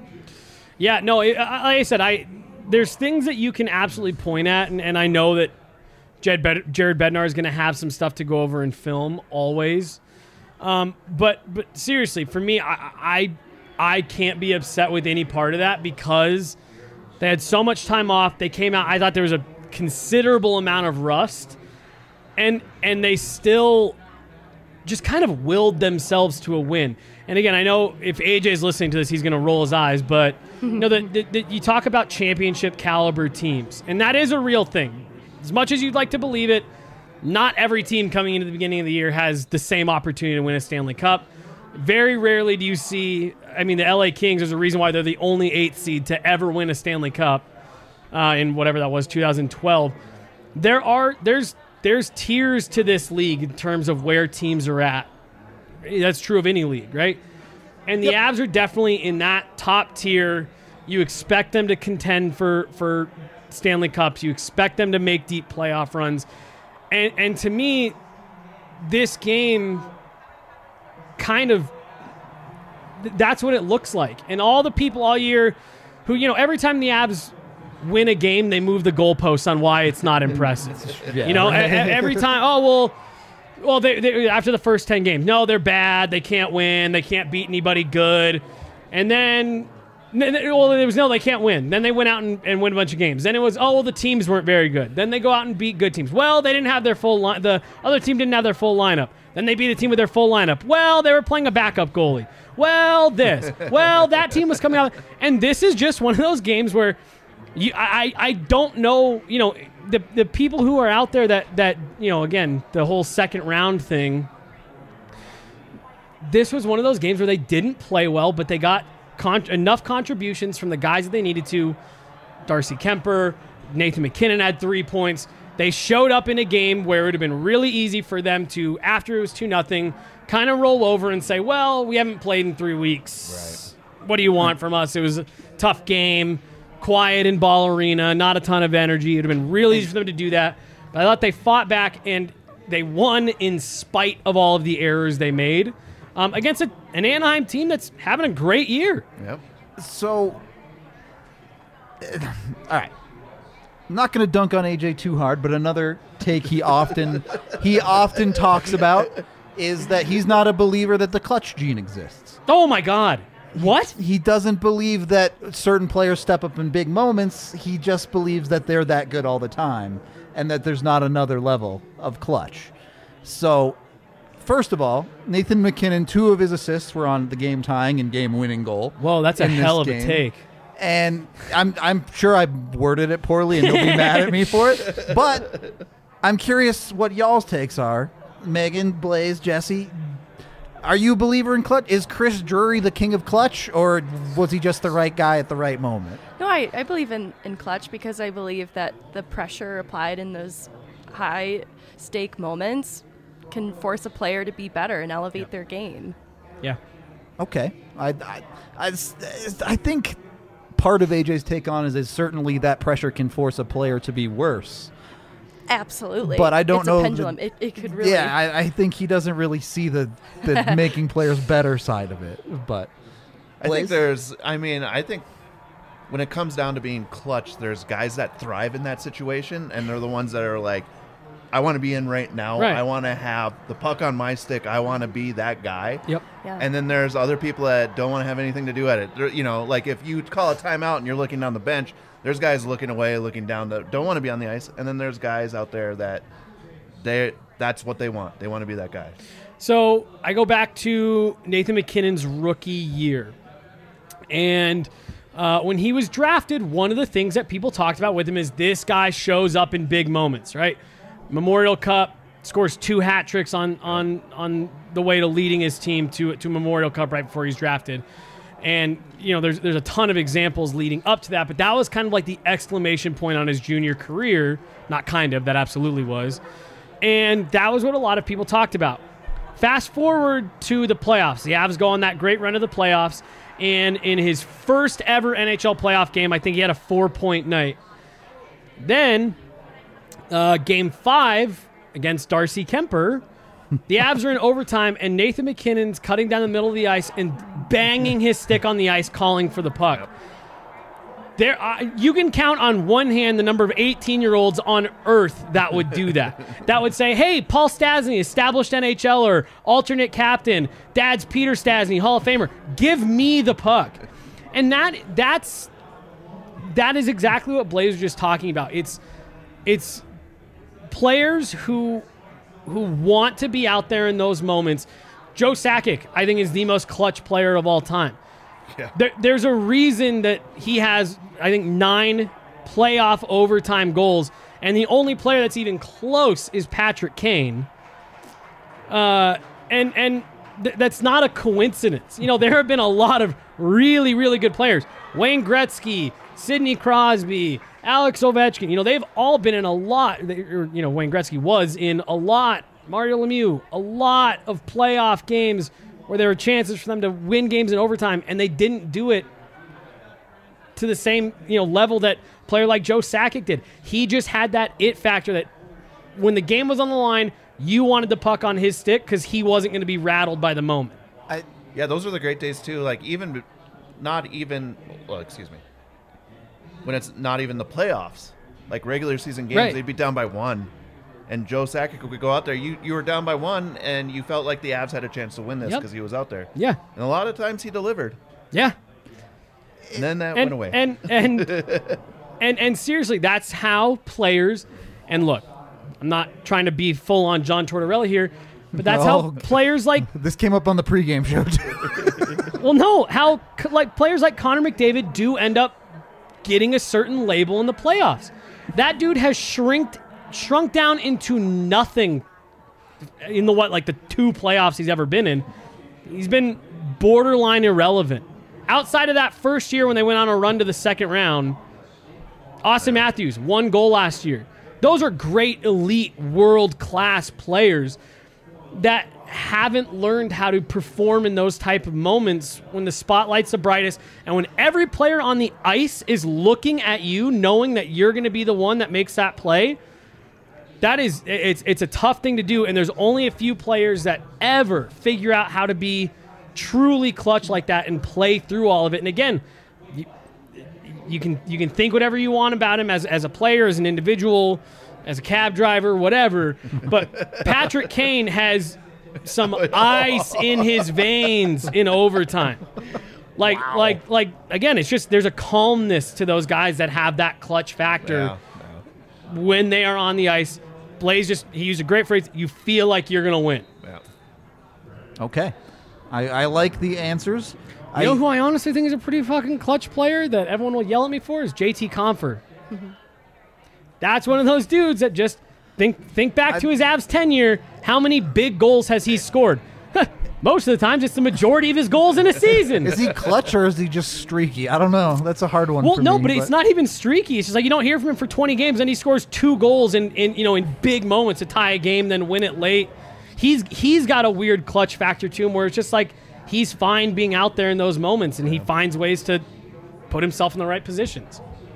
Yeah, no, it, I- like I said, I there's things that you can absolutely point at, and, and I know that Jed Bed- Jared Bednar is going to have some stuff to go over in film always. Um, but but seriously, for me, I, I I can't be upset with any part of that because they had so much time off. They came out. I thought there was a considerable amount of rust, and and they still just kind of willed themselves to a win. And again, I know if A J is listening to this, he's going to roll his eyes, but you know, the, the, the, you talk about championship caliber teams, and that is a real thing. As much as you'd like to believe it, not every team coming into the beginning of the year has the same opportunity to win a Stanley Cup. Very rarely do you see, I mean, the L A Kings, there's a reason why they're the only eighth seed to ever win a Stanley Cup uh, in whatever that was, two thousand twelve. There are, there's, there's tiers to this league in terms of where teams are at. That's true of any league, right? And the Avs are definitely in that top tier. You expect them to contend for, for Stanley Cups. You expect them to make deep playoff runs. And, and to me, this game kind of, th- that's what it looks like. And all the people all year who, you know, every time the Avs win a game, they move the goalposts on why it's not impressive. Yeah. You know, e- e- every time, oh, well, well, they, they, after the first ten games, no, they're bad. They can't win. They can't beat anybody good. And then, n- n- well, it was, no, they can't win. Then they went out and, and win a bunch of games. Then it was, oh, well, the teams weren't very good. Then they go out and beat good teams. Well, they didn't have their full line. The other team didn't have their full lineup. Then they beat a team with their full lineup. Well, they were playing a backup goalie. Well, this. Well, that team was coming out. And this is just one of those games where you, I, I don't know, you know, the the people who are out there that, that, you know, again, the whole second round thing, this was one of those games where they didn't play well, but they got con- enough contributions from the guys that they needed to Darcy Kemper, Nathan McKinnon had three points. They showed up in a game where it would have been really easy for them to, after it was two nothing, kind of roll over and say, well, we haven't played in three weeks. Right. What do you want from us? It was a tough game, quiet in Ball Arena, not a ton of energy. It would have been really easy for them to do that. But I thought they fought back, and they won in spite of all of the errors they made um, against a, an Anaheim team that's having a great year. Yep. So, uh, all right. I'm not going to dunk on A J too hard, but another take he often he often talks about is that he's not a believer that the clutch gene exists. Oh my God. What? He doesn't believe that certain players step up in big moments. He just believes that they're that good all the time and that there's not another level of clutch. So, first of all, Nathan McKinnon, two of his assists were on the game-tying and game-winning goal. Whoa, that's a in this hell of a game. take. And I'm I'm sure I worded it poorly and he'll be mad at me for it. But I'm curious what y'all's takes are. Megan, Blaze, Jesse, are you a believer in clutch? Is Chris Drury the king of clutch, or was he just the right guy at the right moment? No, I, I believe in, in clutch because I believe that the pressure applied in those high-stake moments can force a player to be better and elevate yeah. their game. Yeah. Okay. I, I, I, I think part of A J's take on is, is certainly that pressure can force a player to be worse. Absolutely. But I don't it's know. A pendulum. The, it, it could really. Yeah, I, I think he doesn't really see the, the making players better side of it. But I Blaze? think there's, I mean, I think when it comes down to being clutch, there's guys that thrive in that situation, and they're the ones that are like, I want to be in right now. Right. I want to have the puck on my stick. I want to be that guy. Yep. Yeah. And then there's other people that don't want to have anything to do at it. They're, you know, like if you call a timeout and you're looking down the bench, there's guys looking away, looking down, that don't want to be on the ice. And then there's guys out there that they that's what they want. They want to be that guy. So I go back to Nathan McKinnon's rookie year. And uh, when he was drafted, one of the things that people talked about with him is this guy shows up in big moments, right? Memorial Cup, scores two hat tricks on on on the way to leading his team to to Memorial Cup right before he's drafted. And, you know, there's there's a ton of examples leading up to that, but that was kind of like the exclamation point on his junior career. Not kind of, that absolutely was. And that was what a lot of people talked about. Fast forward to the playoffs. The Avs go on that great run of the playoffs, and in his first ever N H L playoff game, I think he had a four-point night. Then, uh, game five against Darcy Kemper, the Avs are in overtime, and Nathan McKinnon's cutting down the middle of the ice and banging his stick on the ice, calling for the puck. Yep. There, uh, you can count on one hand the number of eighteen-year-olds on Earth that would do that. That would say, hey, Paul Stastny, established N H L er, alternate captain, dad's Peter Stastny, Hall of Famer, give me the puck. And that that's that is exactly what Blaze was just talking about. It's it's players who who want to be out there in those moments. Joe Sakic, I think, is the most clutch player of all time. Yeah. There, there's a reason that he has, I think, nine playoff overtime goals, and the only player that's even close is Patrick Kane. Uh, and and th- that's not a coincidence. You know, there have been a lot of really, really good players. Wayne Gretzky, Sidney Crosby, Alex Ovechkin. You know, they've all been in a lot. You know, Wayne Gretzky was in a lot. Mario Lemieux, a lot of playoff games where there were chances for them to win games in overtime, and they didn't do it to the same, you know, level that a player like Joe Sakic did. He just had that it factor that when the game was on the line, you wanted the puck on his stick because he wasn't going to be rattled by the moment. I, yeah, those are the great days too. Like even, not even, well, excuse me, when it's not even the playoffs, like regular season games, Right. they'd be down by one. And Joe Sakic would go out there. You you were down by one, and you felt like the Avs had a chance to win this Yep. because he was out there. Yeah. And a lot of times he delivered. Yeah. And then that and, went away. And and, and and seriously, that's how players. And look, I'm not trying to be full on John Tortorella here, but that's No. how players like. This came up on the pregame show, too. Well, no, how c- like players like Connor McDavid do end up getting a certain label in the playoffs. That dude has shrinked. shrunk down into nothing in the what like the two playoffs he's ever been in. He's been borderline irrelevant. Outside of that first year when they went on a run to the second round, Austin Matthews, one goal last year. Those are great, elite, world-class players that haven't learned how to perform in those type of moments when the spotlight's the brightest and when every player on the ice is looking at you, knowing that you're going to be the one that makes that play. That is, it's it's a tough thing to do, and there's only a few players that ever figure out how to be truly clutch like that and play through all of it. And again, you, you can you can think whatever you want about him as as a player, as an individual, as a cab driver, whatever. But Patrick Kane has some ice in his veins in overtime. Like, wow. like, like. Again, it's just there's a calmness to those guys that have that clutch factor Yeah, yeah. when they are on the ice. Blaze just he used a great phrase. You feel like you're gonna win. Yeah. Okay, I, I like the answers. You I, know who I honestly think is a pretty fucking clutch player that everyone will yell at me for is J T Compher. That's one of those dudes that just think think back I, to his Avs tenure. How many big goals has he scored? Most of the times, it's the majority of his goals in a season. Is he clutch or is he just streaky? I don't know. That's a hard one. Well, for no, me, but, but it's not even streaky. It's just like you don't hear from him for twenty games, and he scores two goals in, in you know in big moments to tie a game, then win it late. He's he's got a weird clutch factor to him where it's just like he's fine being out there in those moments, and he finds ways to put himself in the right positions.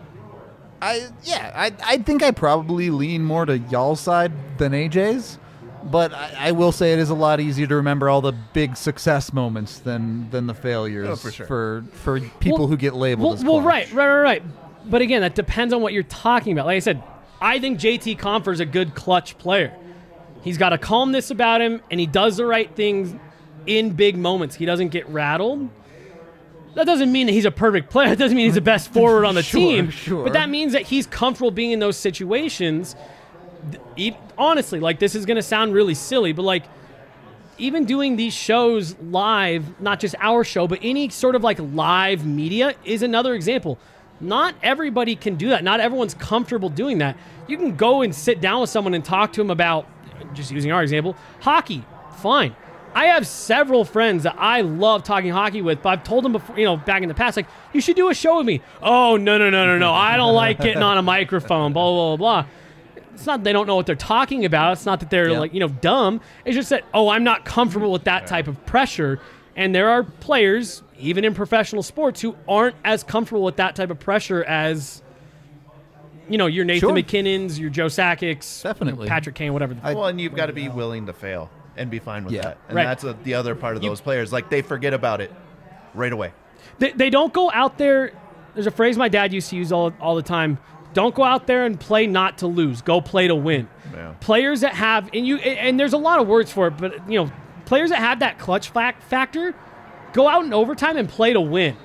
I yeah, I I think I probably lean more to y'all's side than A J's, but I, I will say it is a lot easier to remember all the big success moments than than the failures Oh, for sure. for for people Well- who get labeled Well, as well, clutch. right, right, right, right. But again, that depends on what you're talking about. Like I said, I think J T Compher is a good clutch player. He's got a calmness about him, and he does the right things in big moments. He doesn't get rattled. That doesn't mean that he's a perfect player. It doesn't mean he's the best forward on the Sure, team. sure. But that means that he's comfortable being in those situations. E- Honestly, like this is going to sound really silly, but like even doing these shows live, not just our show, but any sort of like live media is another example. Not everybody can do that. Not everyone's comfortable doing that. You can go and sit down with someone and talk to them about, just using our example, hockey. Fine. I have several friends that I love talking hockey with, but I've told them before, you know, back in the past, like, you should do a show with me. Oh, no, no, no, no, no. I don't like getting on a microphone, blah, blah, blah, blah. It's not that they don't know what they're talking about. It's not that they're, Yeah. like, you know, dumb. It's just that, oh, I'm not comfortable with that type of pressure. And there are players, even in professional sports, who aren't as comfortable with that type of pressure as, you know, your Nathan Sure. McKinnons, your Joe Sakic's, Definitely. Patrick Kane, whatever. The I- Well, and you've got to be willing to fail and be fine with Yeah. that. And Right. that's a, the other part of You- those players. Like, they forget about it right away. They, they don't go out there. There's a phrase my dad used to use all, all the time. Don't go out there and play not to lose. Go play to win. Yeah. Players that have, and you, and there's a lot of words for it, but you know, players that have that clutch fac- factor, go out in overtime and play to win.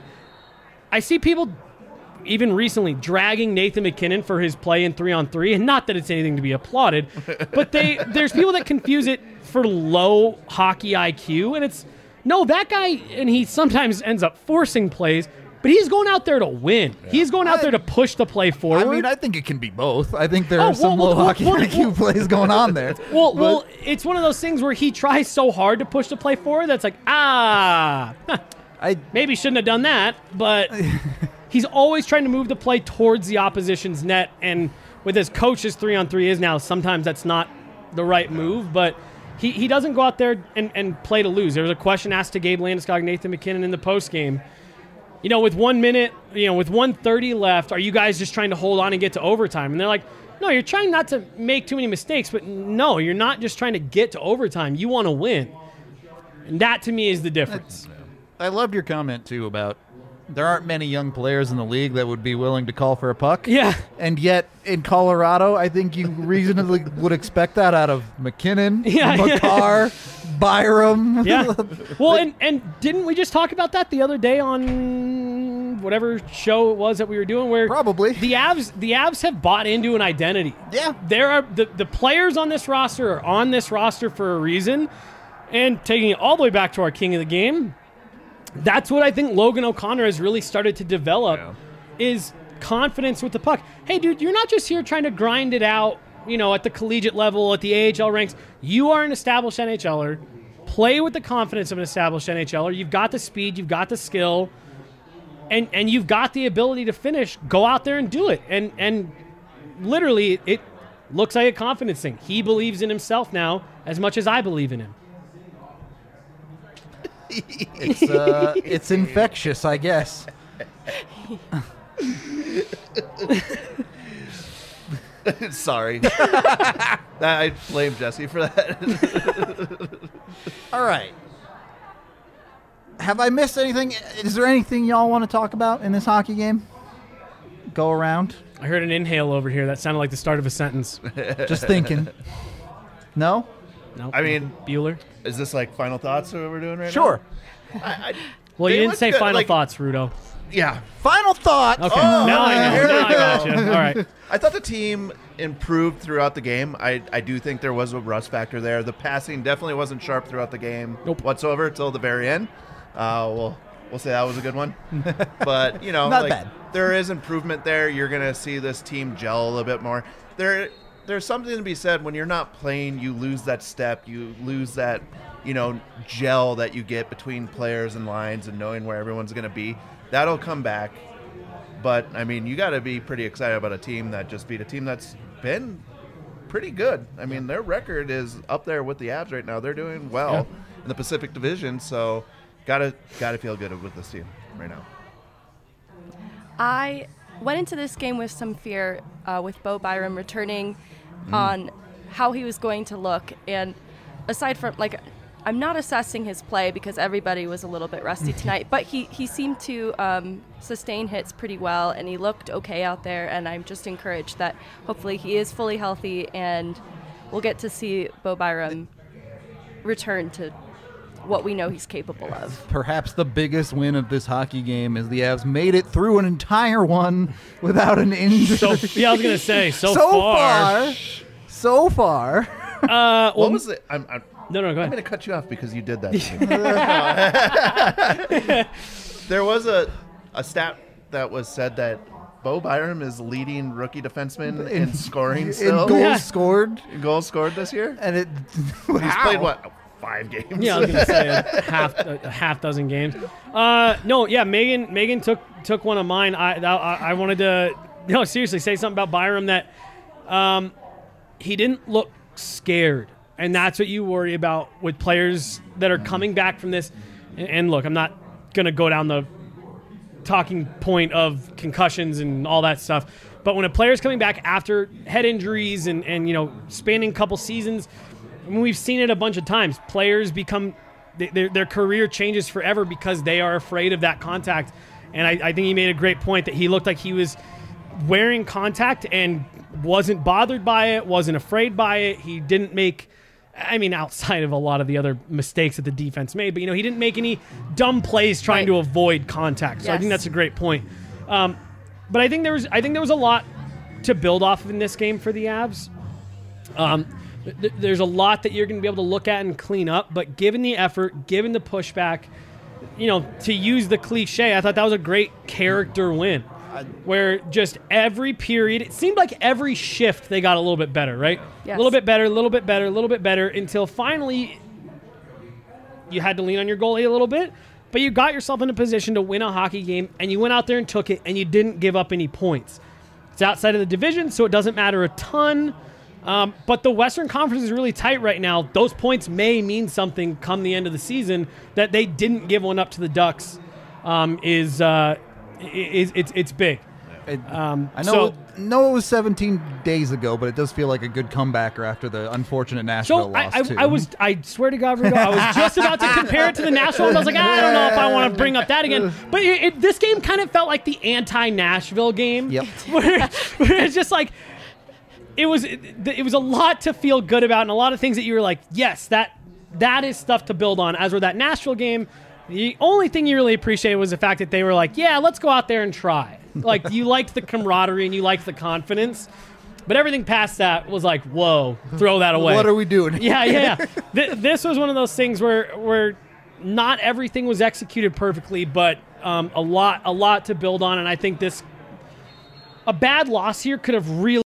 I see people, even recently, dragging Nathan McKinnon for his play in three on three, and not that it's anything to be applauded, but they there's people that confuse it for low hockey I Q, and it's no, that guy, and he sometimes ends up forcing plays. But he's going out there to win. He's going out I- there to push the play forward. I mean, I think it can be both. I think there Oh, are some well, low well, hockey well, I Q well- plays going on there. well, But- well, it's one of those things where he tries so hard to push the play forward that's like, ah, huh, I maybe shouldn't have done that. But he's always trying to move the play towards the opposition's net. And with his coach's three on three is now, sometimes that's not the right move. But he, he doesn't go out there and, and play to lose. There was a question asked to Gabe Landeskog and Nathan McKinnon in the postgame. You know, with one minute, you know, with one thirty left, are you guys just trying to hold on and get to overtime? And they're like, no, you're trying not to make too many mistakes, but no, you're not just trying to get to overtime. You want to win. And that, to me, is the difference. I loved your comment, too, about there aren't many young players in the league that would be willing to call for a puck. Yeah. And yet, in Colorado, I think you reasonably would expect that out of McKinnon, Yeah, yeah. Makar, Byram. Yeah. Well, and, and didn't we just talk about that the other day on whatever show it was that we were doing where Probably. the Avs the Avs have bought into an identity. Yeah. There are the, the players on this roster are on this roster for a reason. And taking it all the way back to our king of the game, that's what I think Logan O'Connor has really started to develop Yeah. is confidence with the puck. Hey, dude, you're not just here trying to grind it out, you know, at the collegiate level, at the A H L ranks. You are an established N H L er. Play with the confidence of an established N H L er. You've got the speed. You've got the skill. and and you've got the ability to finish. Go out there and do it. And and literally, it looks like a confidence thing. He believes in himself now as much as I believe in him. It's uh, it's infectious, I guess. Sorry. I blame Jesse for that. All right. Have I missed anything? Is there anything y'all want to talk about in this hockey game? Go around. I heard an inhale over here. That sounded like the start of a sentence. Just thinking. No? No. I mean, Bueller. Is this like final thoughts that we're doing right Sure. now? I, I, Well, they you didn't look say good, final like- thoughts, Rudo. Yeah. Final thoughts. Okay. Oh, now I know. here Now we I got you. go. All right. I thought the team improved throughout the game. I, I do think there was a rust factor there. The passing definitely wasn't sharp throughout the game Nope. whatsoever until the very end. Uh, we'll, we'll say that was a good one. But, you know, Not like, bad. there is improvement there. You're going to see this team gel a little bit more. There, There's something to be said when you're not playing, you lose that step. You lose that, you know, gel that you get between players and lines and knowing where everyone's going to be. That'll come back. But, I mean, you got to be pretty excited about a team that just beat a team that's been pretty good. I mean, their record is up there with the Avs right now. They're doing well Yeah. in the Pacific Division, so got to got to feel good with this team right now. I went into this game with some fear uh, with Bo Byram returning on how he was going to look. And aside from, like, I'm not assessing his play because everybody was a little bit rusty tonight, but he, he seemed to um, sustain hits pretty well, and he looked okay out there, and I'm just encouraged that hopefully he is fully healthy, and we'll get to see Bo Byram return to what we know he's capable of. Perhaps the biggest win of this hockey game is the Avs made it through an entire one without an injury. So yeah, I was gonna say so, so far. far, so far. Uh, well, What was it? I'm, I'm, no, no, go I'm ahead. going to cut you off because you did that to me. There was a, a stat that was said that Bo Byram is leading rookie defenseman in, scoring In still. goals Yeah. scored, In goals scored this year. and it. He's played, what, five games? Yeah, I was gonna say a half a half dozen games. Uh, no, yeah, Megan Megan took took one of mine. I that, I, I wanted to no seriously say something about Byram that um, he didn't look scared, and that's what you worry about with players that are coming back from this. And, and look, I'm not gonna go down the talking point of concussions and all that stuff, but when a player's coming back after head injuries and and you know spanning a couple seasons. I mean, we've seen it a bunch of times. Players become they, their their career changes forever because they are afraid of that contact. And I, I think he made a great point that he looked like he was wearing contact and wasn't bothered by it, wasn't afraid by it. He didn't make, I mean, outside of a lot of the other mistakes that the defense made, but you know, he didn't make any dumb plays trying Right. to avoid contact. So I think Yes. that's a great point. Um, but I think there was I think there was a lot to build off of in this game for the Avs. Um, th- there's a lot that you're going to be able to look at and clean up, but given the effort, given the pushback, you know, to use the cliche, I thought that was a great character win. Where just every period, it seemed like every shift they got a little bit better, right? Yes. A little bit better, a little bit better, a little bit better, until finally you had to lean on your goalie a little bit, but you got yourself in a position to win a hockey game, and you went out there and took it, and you didn't give up any points. It's outside of the division, so it doesn't matter a ton. Um, but the Western Conference is really tight right now. Those points may mean something come the end of the season. That they didn't give one up to the Ducks um, is uh, is it's it's big. It, Um, I know. so- it, know it was seventeen days ago, but it does feel like a good comebacker after the unfortunate Nashville So I, loss I, too. I was, I swear to God, Rudo, I was just about to compare it to the Nashville, and I was like, I don't know if I want to bring up that again. But it, it, this game kind of felt like the anti-Nashville game, Yep. where, where it's just like it was, it, it was a lot to feel good about, and a lot of things that you were like, yes, that that is stuff to build on. As with that Nashville game, the only thing you really appreciated was the fact that they were like, yeah, let's go out there and try. Like, you liked the camaraderie and you liked the confidence. But everything past that was like, whoa, throw that away. What are we doing? Yeah, yeah, yeah. Th- this was one of those things where where not everything was executed perfectly, but um, a lot a lot to build on. And I think this, a bad loss here could have really